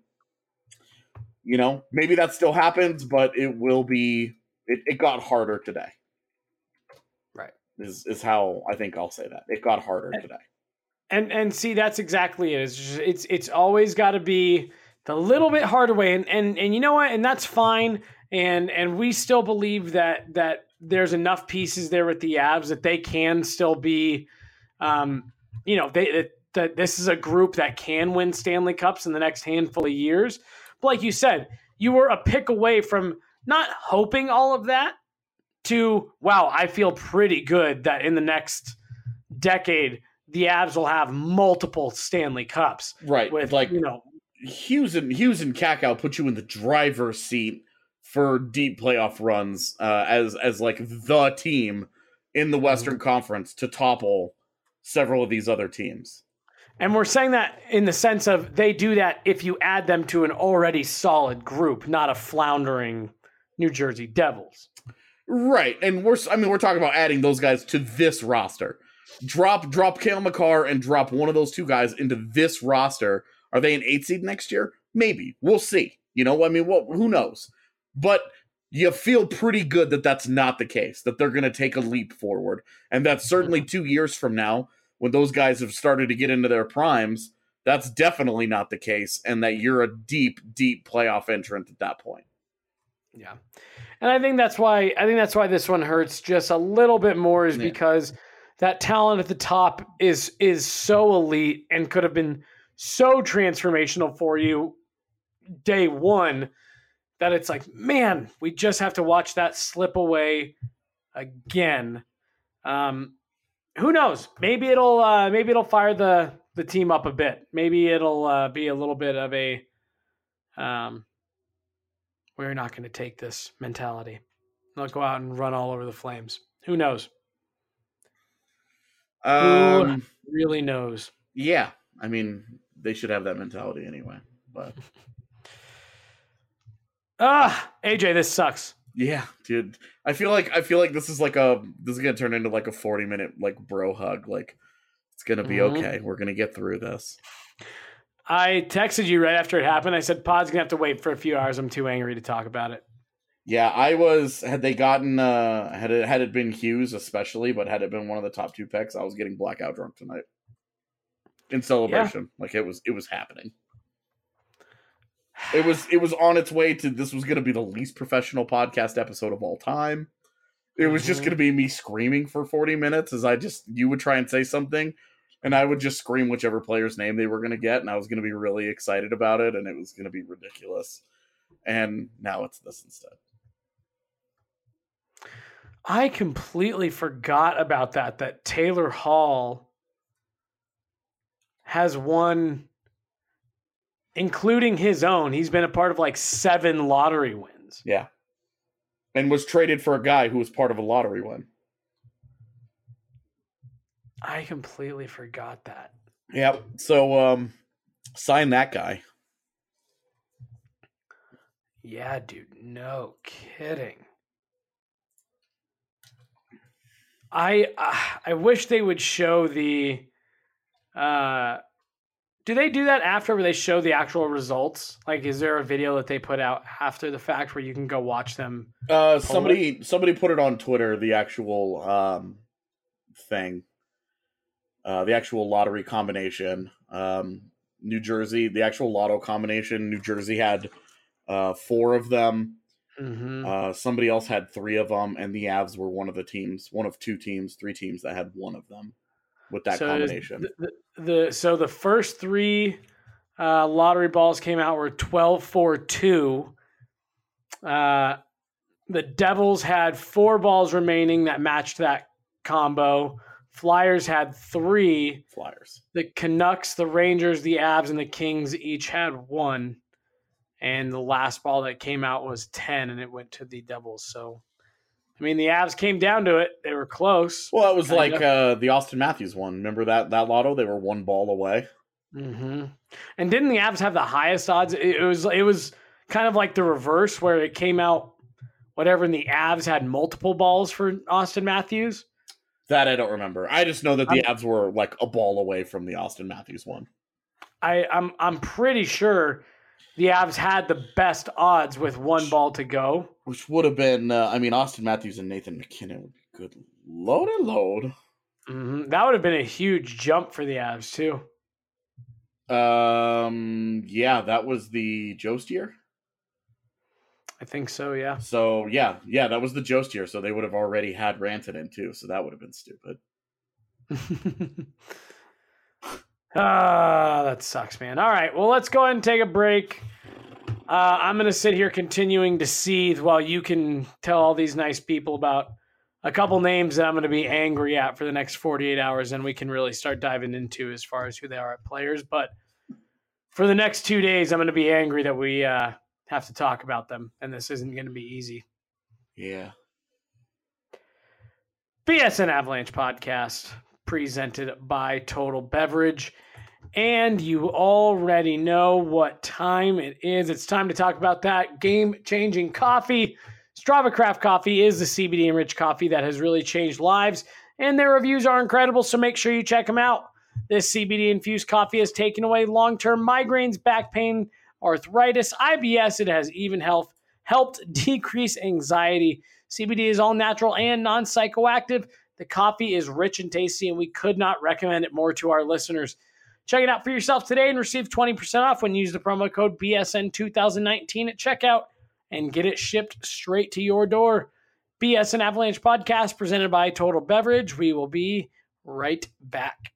F: you know, maybe that still happens, but it will be, it, it got harder today.
E: Right.
F: Is is how I think I'll say that. It got harder
E: and,
F: today.
E: And and see, that's exactly it. It's just, it's, it's always got to be the little bit harder way. And, and, and you know what? And that's fine. And, and we still believe that, that there's enough pieces there with the Avs that they can still be, um, you know, they, that, that this is a group that can win Stanley Cups in the next handful of years. Like you said, you were a pick away from not hoping all of that to, wow, I feel pretty good that in the next decade, the Avs will have multiple Stanley Cups.
F: Right.
E: With,
F: like,
E: you know,
F: Hughes and Hughes and Kakao put you in the driver's seat for deep playoff runs uh, as as like the team in the Western Conference to topple several of these other teams.
E: And we're saying that in the sense of they do that if you add them to an already solid group, not a floundering New Jersey Devils.
F: Right. And we're I mean we're talking about adding those guys to this roster. Drop drop Cale Makar and drop one of those two guys into this roster. Are they an eight seed next year? Maybe. We'll see. You know, I mean, well, who knows? But you feel pretty good that that's not the case, that they're going to take a leap forward. And that's certainly two years from now, when those guys have started to get into their primes, that's definitely not the case, and that you're a deep, deep playoff entrant at that point.
E: Yeah. And I think that's why I think that's why this one hurts just a little bit more is
F: Yeah.
E: because that talent at the top is is so elite and could have been so transformational for you day one that it's like, man, we just have to watch that slip away again. Um, who knows? Maybe it'll uh, maybe it'll fire the the team up a bit. Maybe it'll uh, be a little bit of a um, we're not going to take this mentality. They'll go out and run all over the Flames. Who knows?
F: Um,
E: Who really knows?
F: Yeah. I mean, they should have that mentality anyway. But
E: Ah, A J, this sucks.
F: yeah, dude. I feel like I feel like this is like a this is gonna turn into like a forty minute like bro hug. Like it's gonna be
E: Mhm.
F: okay. We're gonna get through this.
E: I texted you right after it happened. I said, Pod's going to have to wait for a few hours. I'm too angry to talk about it.
F: Yeah, I was had they gotten uh had it had it been Hughes especially, but had it been one of the top two picks, I was getting blackout drunk tonight. In celebration. Like it was it was happening. It was it was on its way to this was gonna be the least professional podcast episode of all time. It was just
E: Mhm.
F: gonna be me screaming for forty minutes as I just you would try and say something and I would just scream whichever player's name they were gonna get, and I was gonna be really excited about it, and it was gonna be ridiculous. And now it's this instead.
E: I completely forgot about that, that Taylor Hall has won, including his own. He's been a part of like seven lottery wins.
F: Yeah. And was traded for a guy who was part of a lottery win.
E: I completely forgot that.
F: Yep. So um sign that guy.
E: Yeah, dude. No kidding. I uh, I wish they would show the. Uh, do they do that after where they show the actual results? Like, is there a video that they put out after the fact where you can go watch them?
F: Uh somebody somebody put it on Twitter, the actual um thing. Uh the actual lottery combination. Um New Jersey, the actual lotto combination, New Jersey had uh four of them.
E: Mm-hmm.
F: Uh, somebody else had three of them, and the Avs were one of the teams, one of two teams, three teams that had one of them with that
E: so
F: combination.
E: The, the, the so the first three uh, lottery balls came out were twelve four two. Uh, the Devils had four balls remaining that matched that combo. Flyers had three.
F: Flyers.
E: The Canucks, the Rangers, the Avs, and the Kings each had one. And the last ball that came out was ten, and it went to the Devils. So, I mean, the Avs came down to it. They were close.
F: Well, it was
E: Kind
F: like
E: of.
F: uh, the Austin Matthews one. Remember that that lotto? They were one ball away.
E: Mm-hmm. And didn't the Avs have the highest odds? It, it was it was kind of like the reverse, where it came out whatever, and the Avs had multiple balls for Austin Matthews.
F: That I don't remember. I just know that the Avs were like a ball away from the Austin Matthews one.
E: I, I'm I'm pretty sure the Avs had the best odds with one ball to go.
F: Which would have been, uh, I mean, Austin Matthews and Nathan McKinnon would be good. Load and load.
E: Mm-hmm. That would have been a huge jump for the Avs, too.
F: Um, yeah, that was the Jost year.
E: I think so, yeah.
F: So, yeah, yeah, that was the Jost year. So they would have already had Rantanen, too. So that would have been stupid.
E: Ah, that sucks, man. All right, well, let's go ahead and take a break. Uh, I'm going to sit here continuing to seethe while you can tell all these nice people about a couple names that I'm going to be angry at for the next forty-eight hours, and we can really start diving into as far as who they are at players. But for the next two days, I'm going to be angry that we uh, have to talk about them, and this isn't going to be easy.
F: Yeah.
E: B S N Avalanche podcast presented by Total Beverage. And you already know what time it is. It's time to talk about that game-changing coffee. Strava Craft Coffee is the C B D-enriched coffee that has really changed lives, and their reviews are incredible, so make sure you check them out. This C B D-infused coffee has taken away long-term migraines, back pain, arthritis, I B S. It has even health, helped decrease anxiety. C B D is all natural and non-psychoactive. The coffee is rich and tasty, and we could not recommend it more to our listeners. Check it out for yourself today and receive twenty percent off when you use the promo code B S N two thousand nineteen at checkout and get it shipped straight to your door. B S N Avalanche podcast presented by Total Beverage. We will be right back.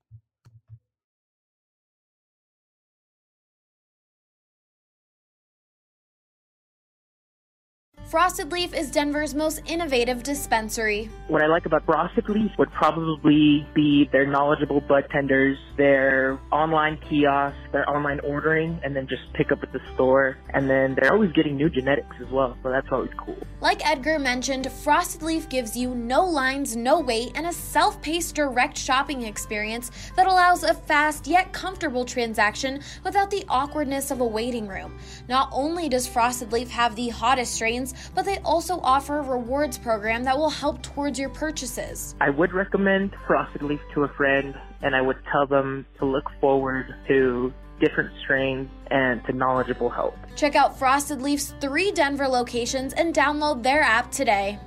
G: Frosted Leaf is Denver's most innovative dispensary.
I: What I like about Frosted Leaf would probably be their knowledgeable budtenders, their online kiosks, their online ordering, and then just pick up at the store. And then they're always getting new genetics as well, so that's always cool.
G: Like Edgar mentioned, Frosted Leaf gives you no lines, no wait, and a self-paced direct shopping experience that allows a fast yet comfortable transaction without the awkwardness of a waiting room. Not only does Frosted Leaf have the hottest strains, but they also offer a rewards program that will help towards your purchases.
I: I would recommend Frosted Leaf to a friend, and I would tell them to look forward to different strains and to knowledgeable help.
G: Check out Frosted Leaf's three Denver locations and download their app today.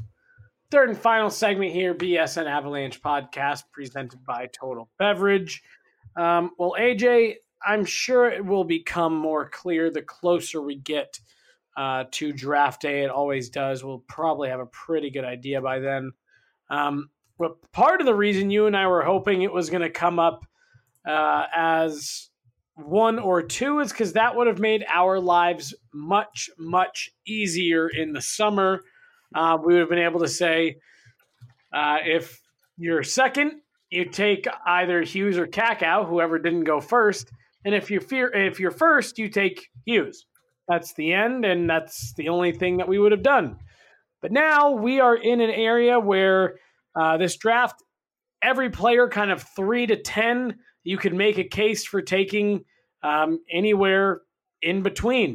E: Third and final segment here, B S N Avalanche podcast presented by Total Beverage. Um, well, A J, I'm sure it will become more clear the closer we get Uh, to draft day. It always does. We'll probably have a pretty good idea by then. Um, but part of the reason you and I were hoping it was going to come up uh, as one or two is because that would have made our lives much, much easier in the summer. Uh, we would have been able to say, uh, if you're second, you take either Hughes or Kakao, whoever didn't go first. And if you're, fear, if you're first, you take Hughes. That's the end, and that's the only thing that we would have done. But now we are in an area where uh, this draft, every player kind of three to ten, you could make a case for taking um, anywhere in between.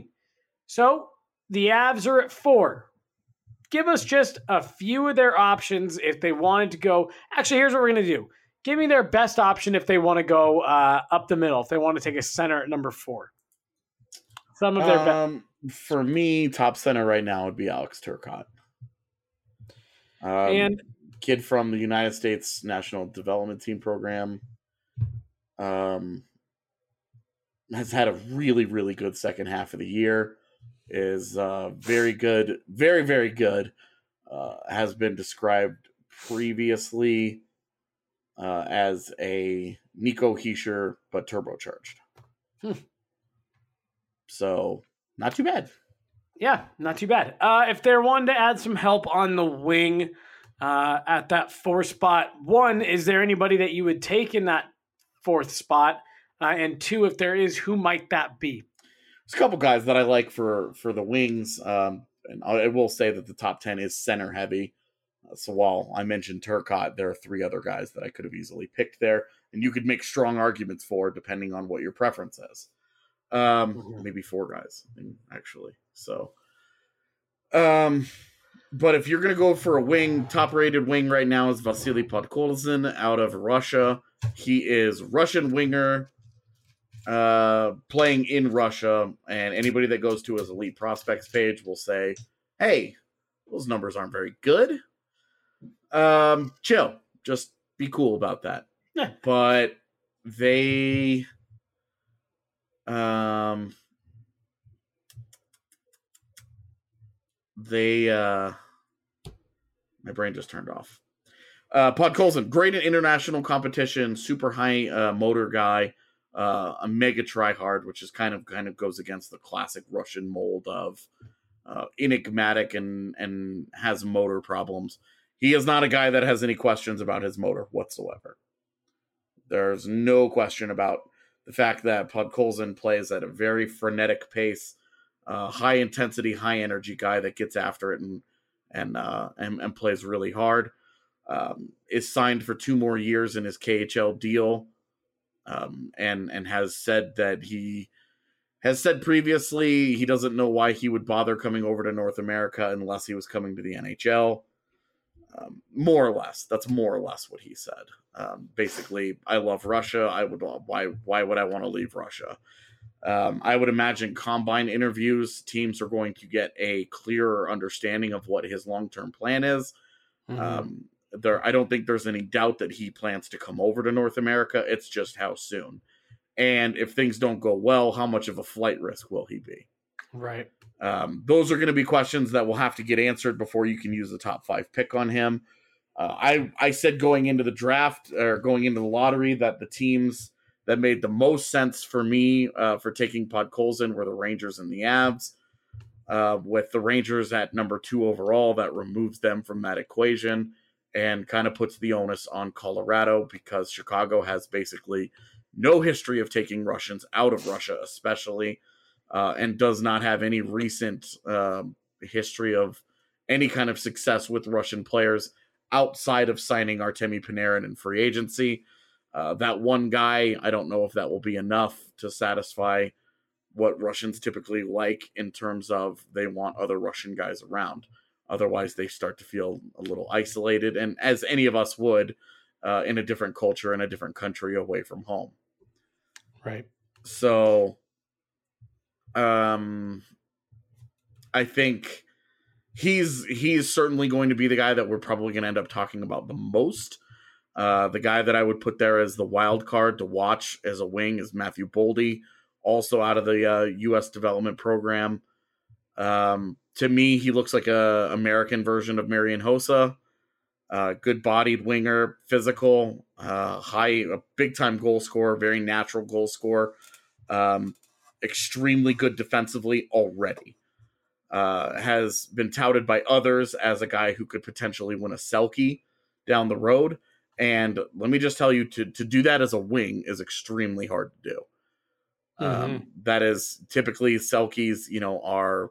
E: So the Avs are at four. Give us just a few of their options if they wanted to go. Actually, here's what we're going to do. Give me their best option if they want to go uh, up the middle, if they want to take a center at number four. Some of their
F: um, be- for me, top center right now would be Alex Turcotte. Um,
E: and
F: kid from the United States National Development Team program. Um, has had a really, really good second half of the year. Is uh, very good, very, very good. Uh, has been described previously uh, as a Nico Hischier, but turbocharged.
E: Hmm.
F: So, not too bad.
E: Yeah, not too bad. Uh, if they're wanting to add some help on the wing uh, at that four spot, one, is there anybody that you would take in that fourth spot? Uh, and two, if there is, who might that be?
F: There's a couple guys that I like for, for the wings. Um, and I will say that the top ten is center heavy. Uh, so while I mentioned Turcotte, there are three other guys that I could have easily picked there. And you could make strong arguments for depending on what your preference is. Um, mm-hmm. Maybe four guys, actually. So, um, but if you're going to go for a wing, top-rated wing right now is Vasily Podkolzin out of Russia. He is Russian winger, uh, playing in Russia, and anybody that goes to his elite prospects page will say, hey, those numbers aren't very good. Um, chill. Just be cool about that.
E: Yeah.
F: But they... Um, they, uh, my brain just turned off. Uh, Podkolzin, great in international competition, super high uh, motor guy, uh, a mega tryhard, which is kind of kind of goes against the classic Russian mold of uh, enigmatic and and has motor problems. He is not a guy that has any questions about his motor whatsoever. There's no question about the fact that Podkolzin plays at a very frenetic pace, uh, high intensity, high energy guy that gets after it and and uh, and, and plays really hard. Um, is signed for two more years in his K H L deal, um, and and has said that he has said previously he doesn't know why he would bother coming over to North America unless he was coming to the N H L. Um, more or less, that's more or less what he said. Um, basically, I love Russia. I would why why would I want to leave Russia? Um, I would imagine combine interviews, teams are going to get a clearer understanding of what his long term plan is. Mm-hmm. Um, there, I don't think there's any doubt that he plans to come over to North America. It's just how soon, and if things don't go well, how much of a flight risk will he be?
E: Right.
F: Um, those are going to be questions that will have to get answered before you can use the top five pick on him. Uh, I, I said going into the draft or going into the lottery that the teams that made the most sense for me uh, for taking Podkolzin were the Rangers and the Avs. Uh, with the Rangers at number two overall, that removes them from that equation and kind of puts the onus on Colorado because Chicago has basically no history of taking Russians out of Russia, especially. Uh, and does not have any recent uh, history of any kind of success with Russian players outside of signing Artemi Panarin in free agency. Uh, that one guy, I don't know if that will be enough to satisfy what Russians typically like in terms of they want other Russian guys around. Otherwise, they start to feel a little isolated, and as any of us would uh, in a different culture, in a different country away from home.
E: Right.
F: So... Um, I think he's he's certainly going to be the guy that we're probably going to end up talking about the most. Uh, the guy that I would put there as the wild card to watch as a wing is Matthew Boldy, also out of the uh, U S development program. Um, to me, he looks like a American version of Marian Hossa. Uh, good-bodied winger, physical, uh, high, a big-time goal scorer, very natural goal scorer. Um, extremely good defensively already. Uh, has been touted by others as a guy who could potentially win a Selke down the road. And let me just tell you, to, to do that as a wing is extremely hard to do. Mm-hmm. Um, that is typically Selkes, you know, are,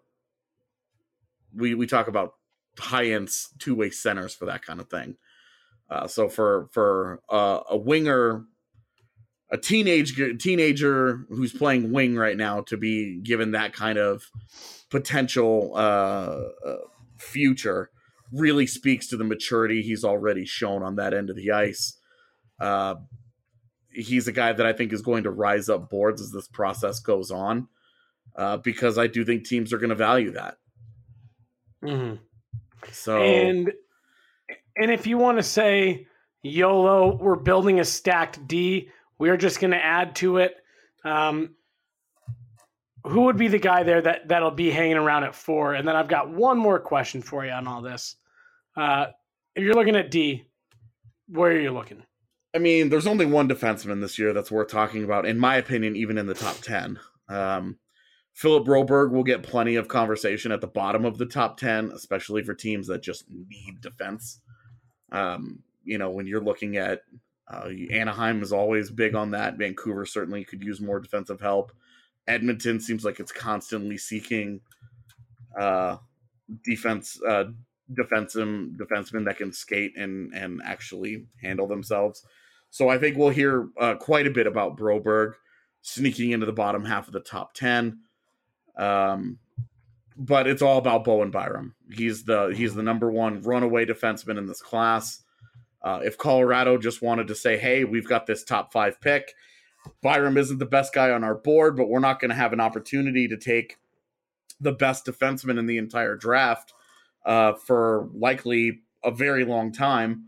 F: we, we talk about high-end two-way centers for that kind of thing. Uh, so for, for uh, a winger, a teenage teenager who's playing wing right now to be given that kind of potential uh, uh, future really speaks to the maturity he's already shown on that end of the ice. Uh, he's a guy that I think is going to rise up boards as this process goes on uh, because I do think teams are going to value that.
E: Mm-hmm.
F: So,
E: and and if you want to say YOLO, we're building a stacked D. We're just going to add to it. Um, who would be the guy there that, that'll be hanging around at four? And then I've got one more question for you on all this. Uh, if you're looking at D, where are you looking?
F: I mean, there's only one defenseman this year that's worth talking about, in my opinion, even in the top ten. Um, Philip Broberg will get plenty of conversation at the bottom of the top ten, especially for teams that just need defense. Um, you know, when you're looking at Uh, Anaheim is always big on that. Vancouver certainly could use more defensive help. Edmonton seems like it's constantly seeking uh, defense, uh, defensive defensemen that can skate and and actually handle themselves. So I think we'll hear uh, quite a bit about Broberg sneaking into the bottom half of the top ten. Um, but it's all about Bowen Byram. He's the he's the number one runaway defenseman in this class. Uh, if Colorado just wanted to say, hey, we've got this top five pick, Byram isn't the best guy on our board, but we're not going to have an opportunity to take the best defenseman in the entire draft uh, for likely a very long time.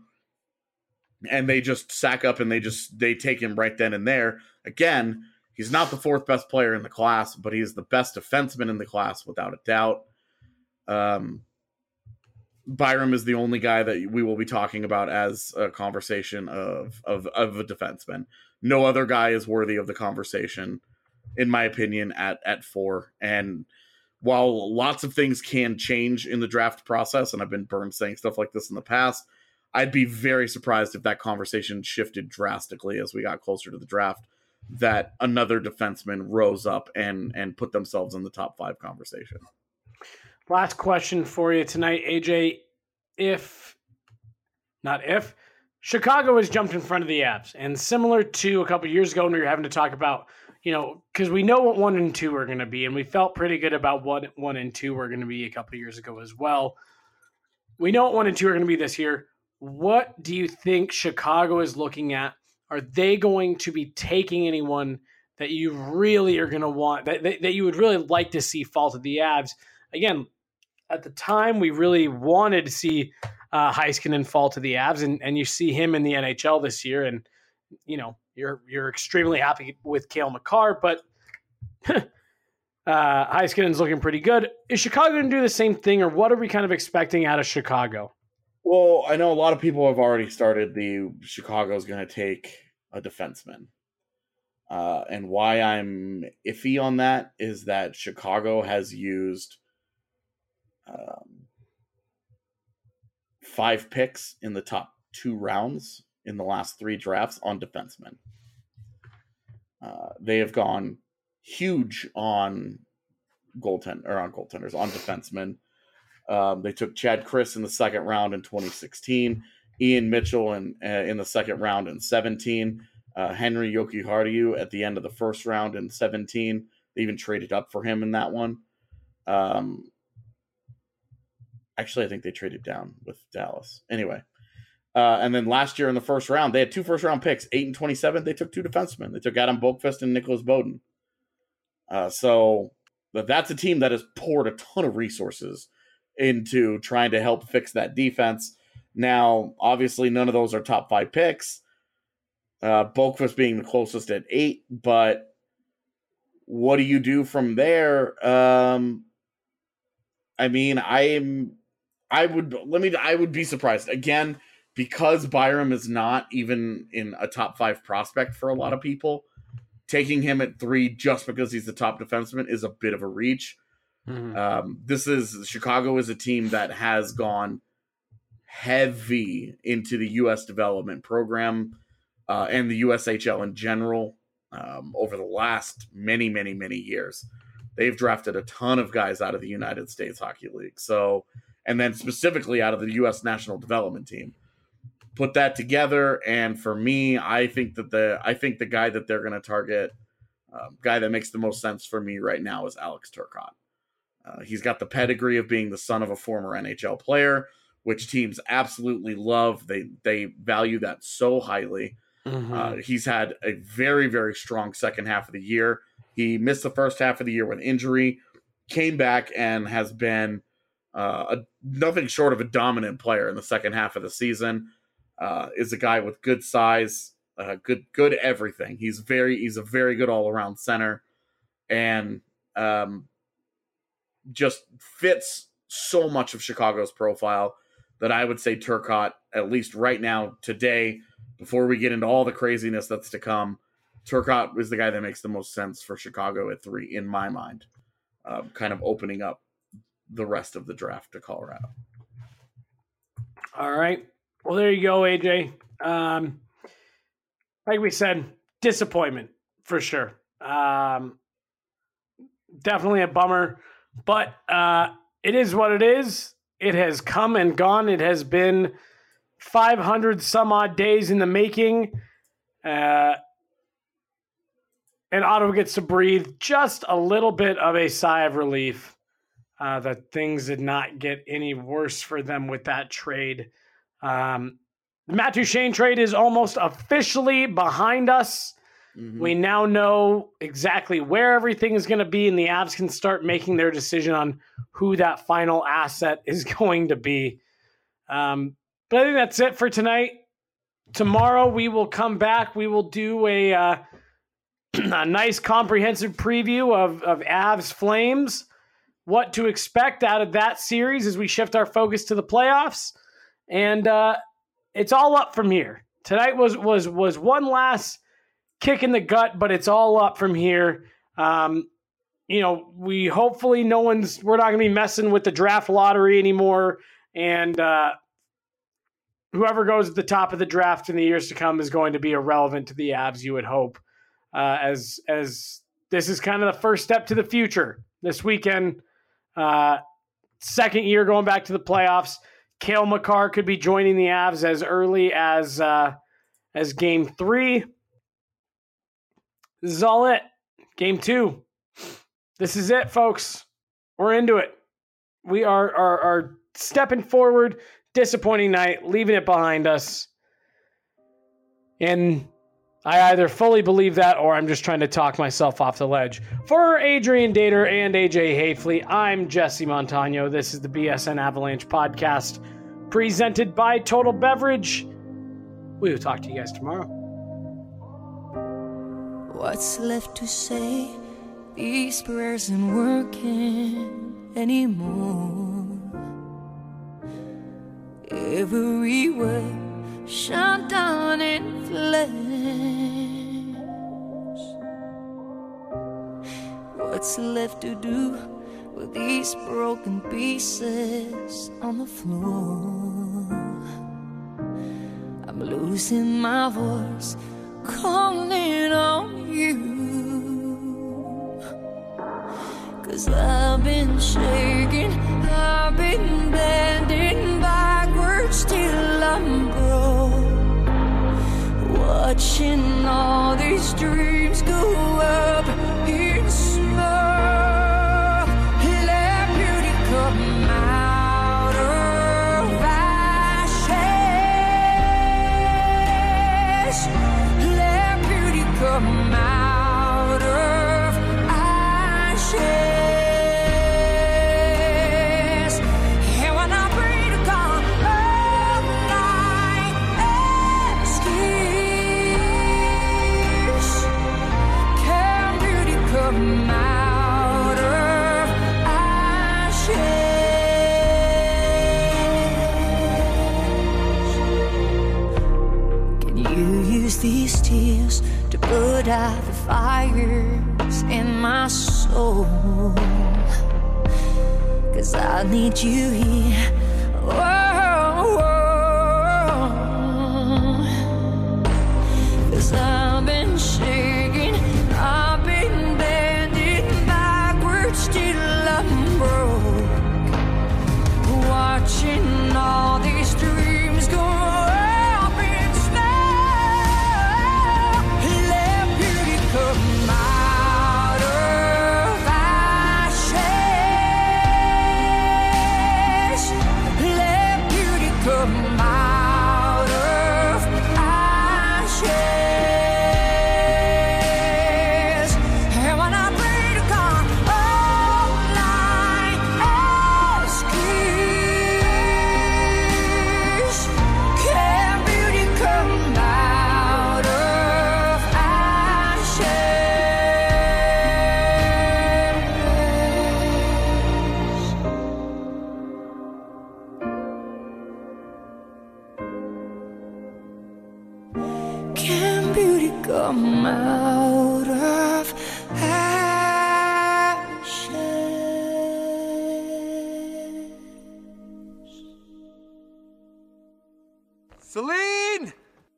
F: And they just sack up and they just, they take him right then and there. Again, he's not the fourth best player in the class, but he's the best defenseman in the class without a doubt. Um, Byram is the only guy that we will be talking about as a conversation of, of, of a defenseman. No other guy is worthy of the conversation, in my opinion, at, at four. And while lots of things can change in the draft process, and I've been burned saying stuff like this in the past, I'd be very surprised if that conversation shifted drastically as we got closer to the draft, that another defenseman rose up and, and put themselves in the top five conversation.
E: Last question for you tonight, A J. If, not if, Chicago has jumped in front of the Avs, and similar to a couple years ago when we were having to talk about, you know, because we know what one and two are going to be, and we felt pretty good about what one and two were going to be a couple of years ago as well. We know what one and two are going to be this year. What do you think Chicago is looking at? Are they going to be taking anyone that you really are going to want, that, that, that you would really like to see fall to the Avs? Again, at the time, we really wanted to see uh, Heiskanen fall to the Avs, and, and you see him in the N H L this year, and you know you're you're extremely happy with Cale Makar, but uh, Heiskanen's looking pretty good. Is Chicago going to do the same thing, or what are we kind of expecting out of Chicago?
F: Well, I know a lot of people have already started the Chicago's going to take a defenseman. Uh, and why I'm iffy on that is that Chicago has used um, five picks in the top two rounds in the last three drafts on defensemen. Uh, they have gone huge on goaltend or on goaltenders, on defensemen. Um, they took Chad Chris in the second round in twenty sixteen, Ian Mitchell in uh, in the second round in seventeen, uh, Henry Jokiharju at the end of the first round in seventeen. They even traded up for him in that one. Um, actually, I think they traded down with Dallas. Anyway, uh, and then last year in the first round, they had two first round picks, eight and twenty-seven. They took two defensemen. They took Adam Boqvist and Nicholas Bowden. Uh, so but that's a team that has poured a ton of resources into trying to help fix that defense. Now, obviously, none of those are top five picks. Uh, Boqvist being the closest at eight, but what do you do from there? Um, I mean, I'm, I would let me. I would be surprised again because Byram is not even in a top five prospect for a lot of people. Taking him at three just because he's the top defenseman is a bit of a reach. Mm-hmm. Um, this is Chicago is a team that has gone heavy into the U S development program uh, and the U S H L in general um, over the last many, many, many years. They've drafted a ton of guys out of the United States Hockey League. So, and then specifically out of the U S National Development Team. Put that together, and for me, I think that the I think the guy that they're going to target, uh, guy that makes the most sense for me right now is Alex Turcotte. Uh, he's got the pedigree of being the son of a former N H L player, which teams absolutely love. They they value that so highly. Mm-hmm. Uh, he's had a very, very strong second half of the year. He missed the first half of the year with injury, came back and has been uh, a, nothing short of a dominant player in the second half of the season. Uh, is a guy with good size, uh, good good everything. He's very he's a very good all around center, and um, just fits so much of Chicago's profile that I would say Turcotte, at least right now, today, before we get into all the craziness that's to come, Turcotte is the guy that makes the most sense for Chicago at three, in my mind, uh, kind of opening up the rest of the draft to Colorado.
E: All right. Well, there you go, A J. Um, like we said, disappointment for sure. Um, definitely a bummer, but uh, it is what it is. It has come and gone. It has been five hundred some odd days in the making. Uh, and Ottawa gets to breathe just a little bit of a sigh of relief uh, that things did not get any worse for them with that trade. Um, the Matt Duchene trade is almost officially behind us. Mm-hmm. We now know exactly where everything is going to be, and the Avs can start making their decision on who that final asset is going to be. Um, but I think that's it for tonight. Tomorrow we will come back. We will do a, uh, a nice comprehensive preview of, of Avs Flames. what to expect out of that series as we shift our focus to the playoffs. And uh, it's all up from here. Tonight was was was one last kick in the gut, but it's all up from here. Um, you know, we hopefully no one's we're not going to be messing with the draft lottery anymore, and uh, whoever goes at the top of the draft in the years to come is going to be irrelevant to the Avs. You would hope, uh, as as this is kind of the first step to the future. This weekend, uh, second year going back to the playoffs. Cale Makar could be joining the Avs as early as uh, as game three. This is all it. Game two. This is it, folks. We're into it. We are, are, are stepping forward. Disappointing night, leaving it behind us. And I either fully believe that or I'm just trying to talk myself off the ledge. For Adrian Dater and A J Hayfley, I'm Jesse Montano. This is the B S N Avalanche podcast presented by Total Beverage. We will talk to you guys tomorrow.
J: What's left to say? These prayers aren't working anymore. Everywhere shut down in flames. What's left to do with these broken pieces on the floor? I'm losing my voice, calling on you. 'Cause I've been shaking, I've been bending backwards till I'm broke, watching all these dreams go up in smoke. Let beauty come out of ashes. Let beauty come out of ashes. These tears to put out the fires in my soul. 'Cause I need you here. Oh, oh. 'Cause I've been shaking, I've been bending backwards till I'm broke, watching all these dreams go. Can beauty come out of ashes?
K: Celine!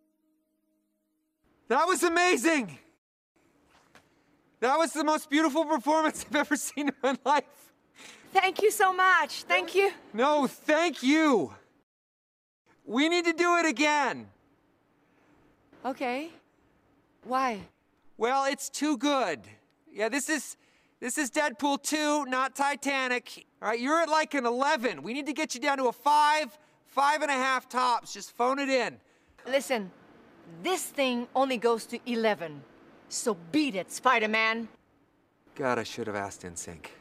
K: That was amazing! That was the most beautiful performance I've ever seen in my life.
L: Thank you so much. Thank you.
K: No, thank you. We need to do it again.
L: Okay. Why?
K: Well, it's too good. Yeah, this is this is Deadpool two, not Titanic. All right, you're at like an eleven. We need to get you down to a five, five and a half tops. Just phone it in.
L: Listen, this thing only goes to eleven. So beat it, Spider-Man.
K: God, I should have asked N Sync.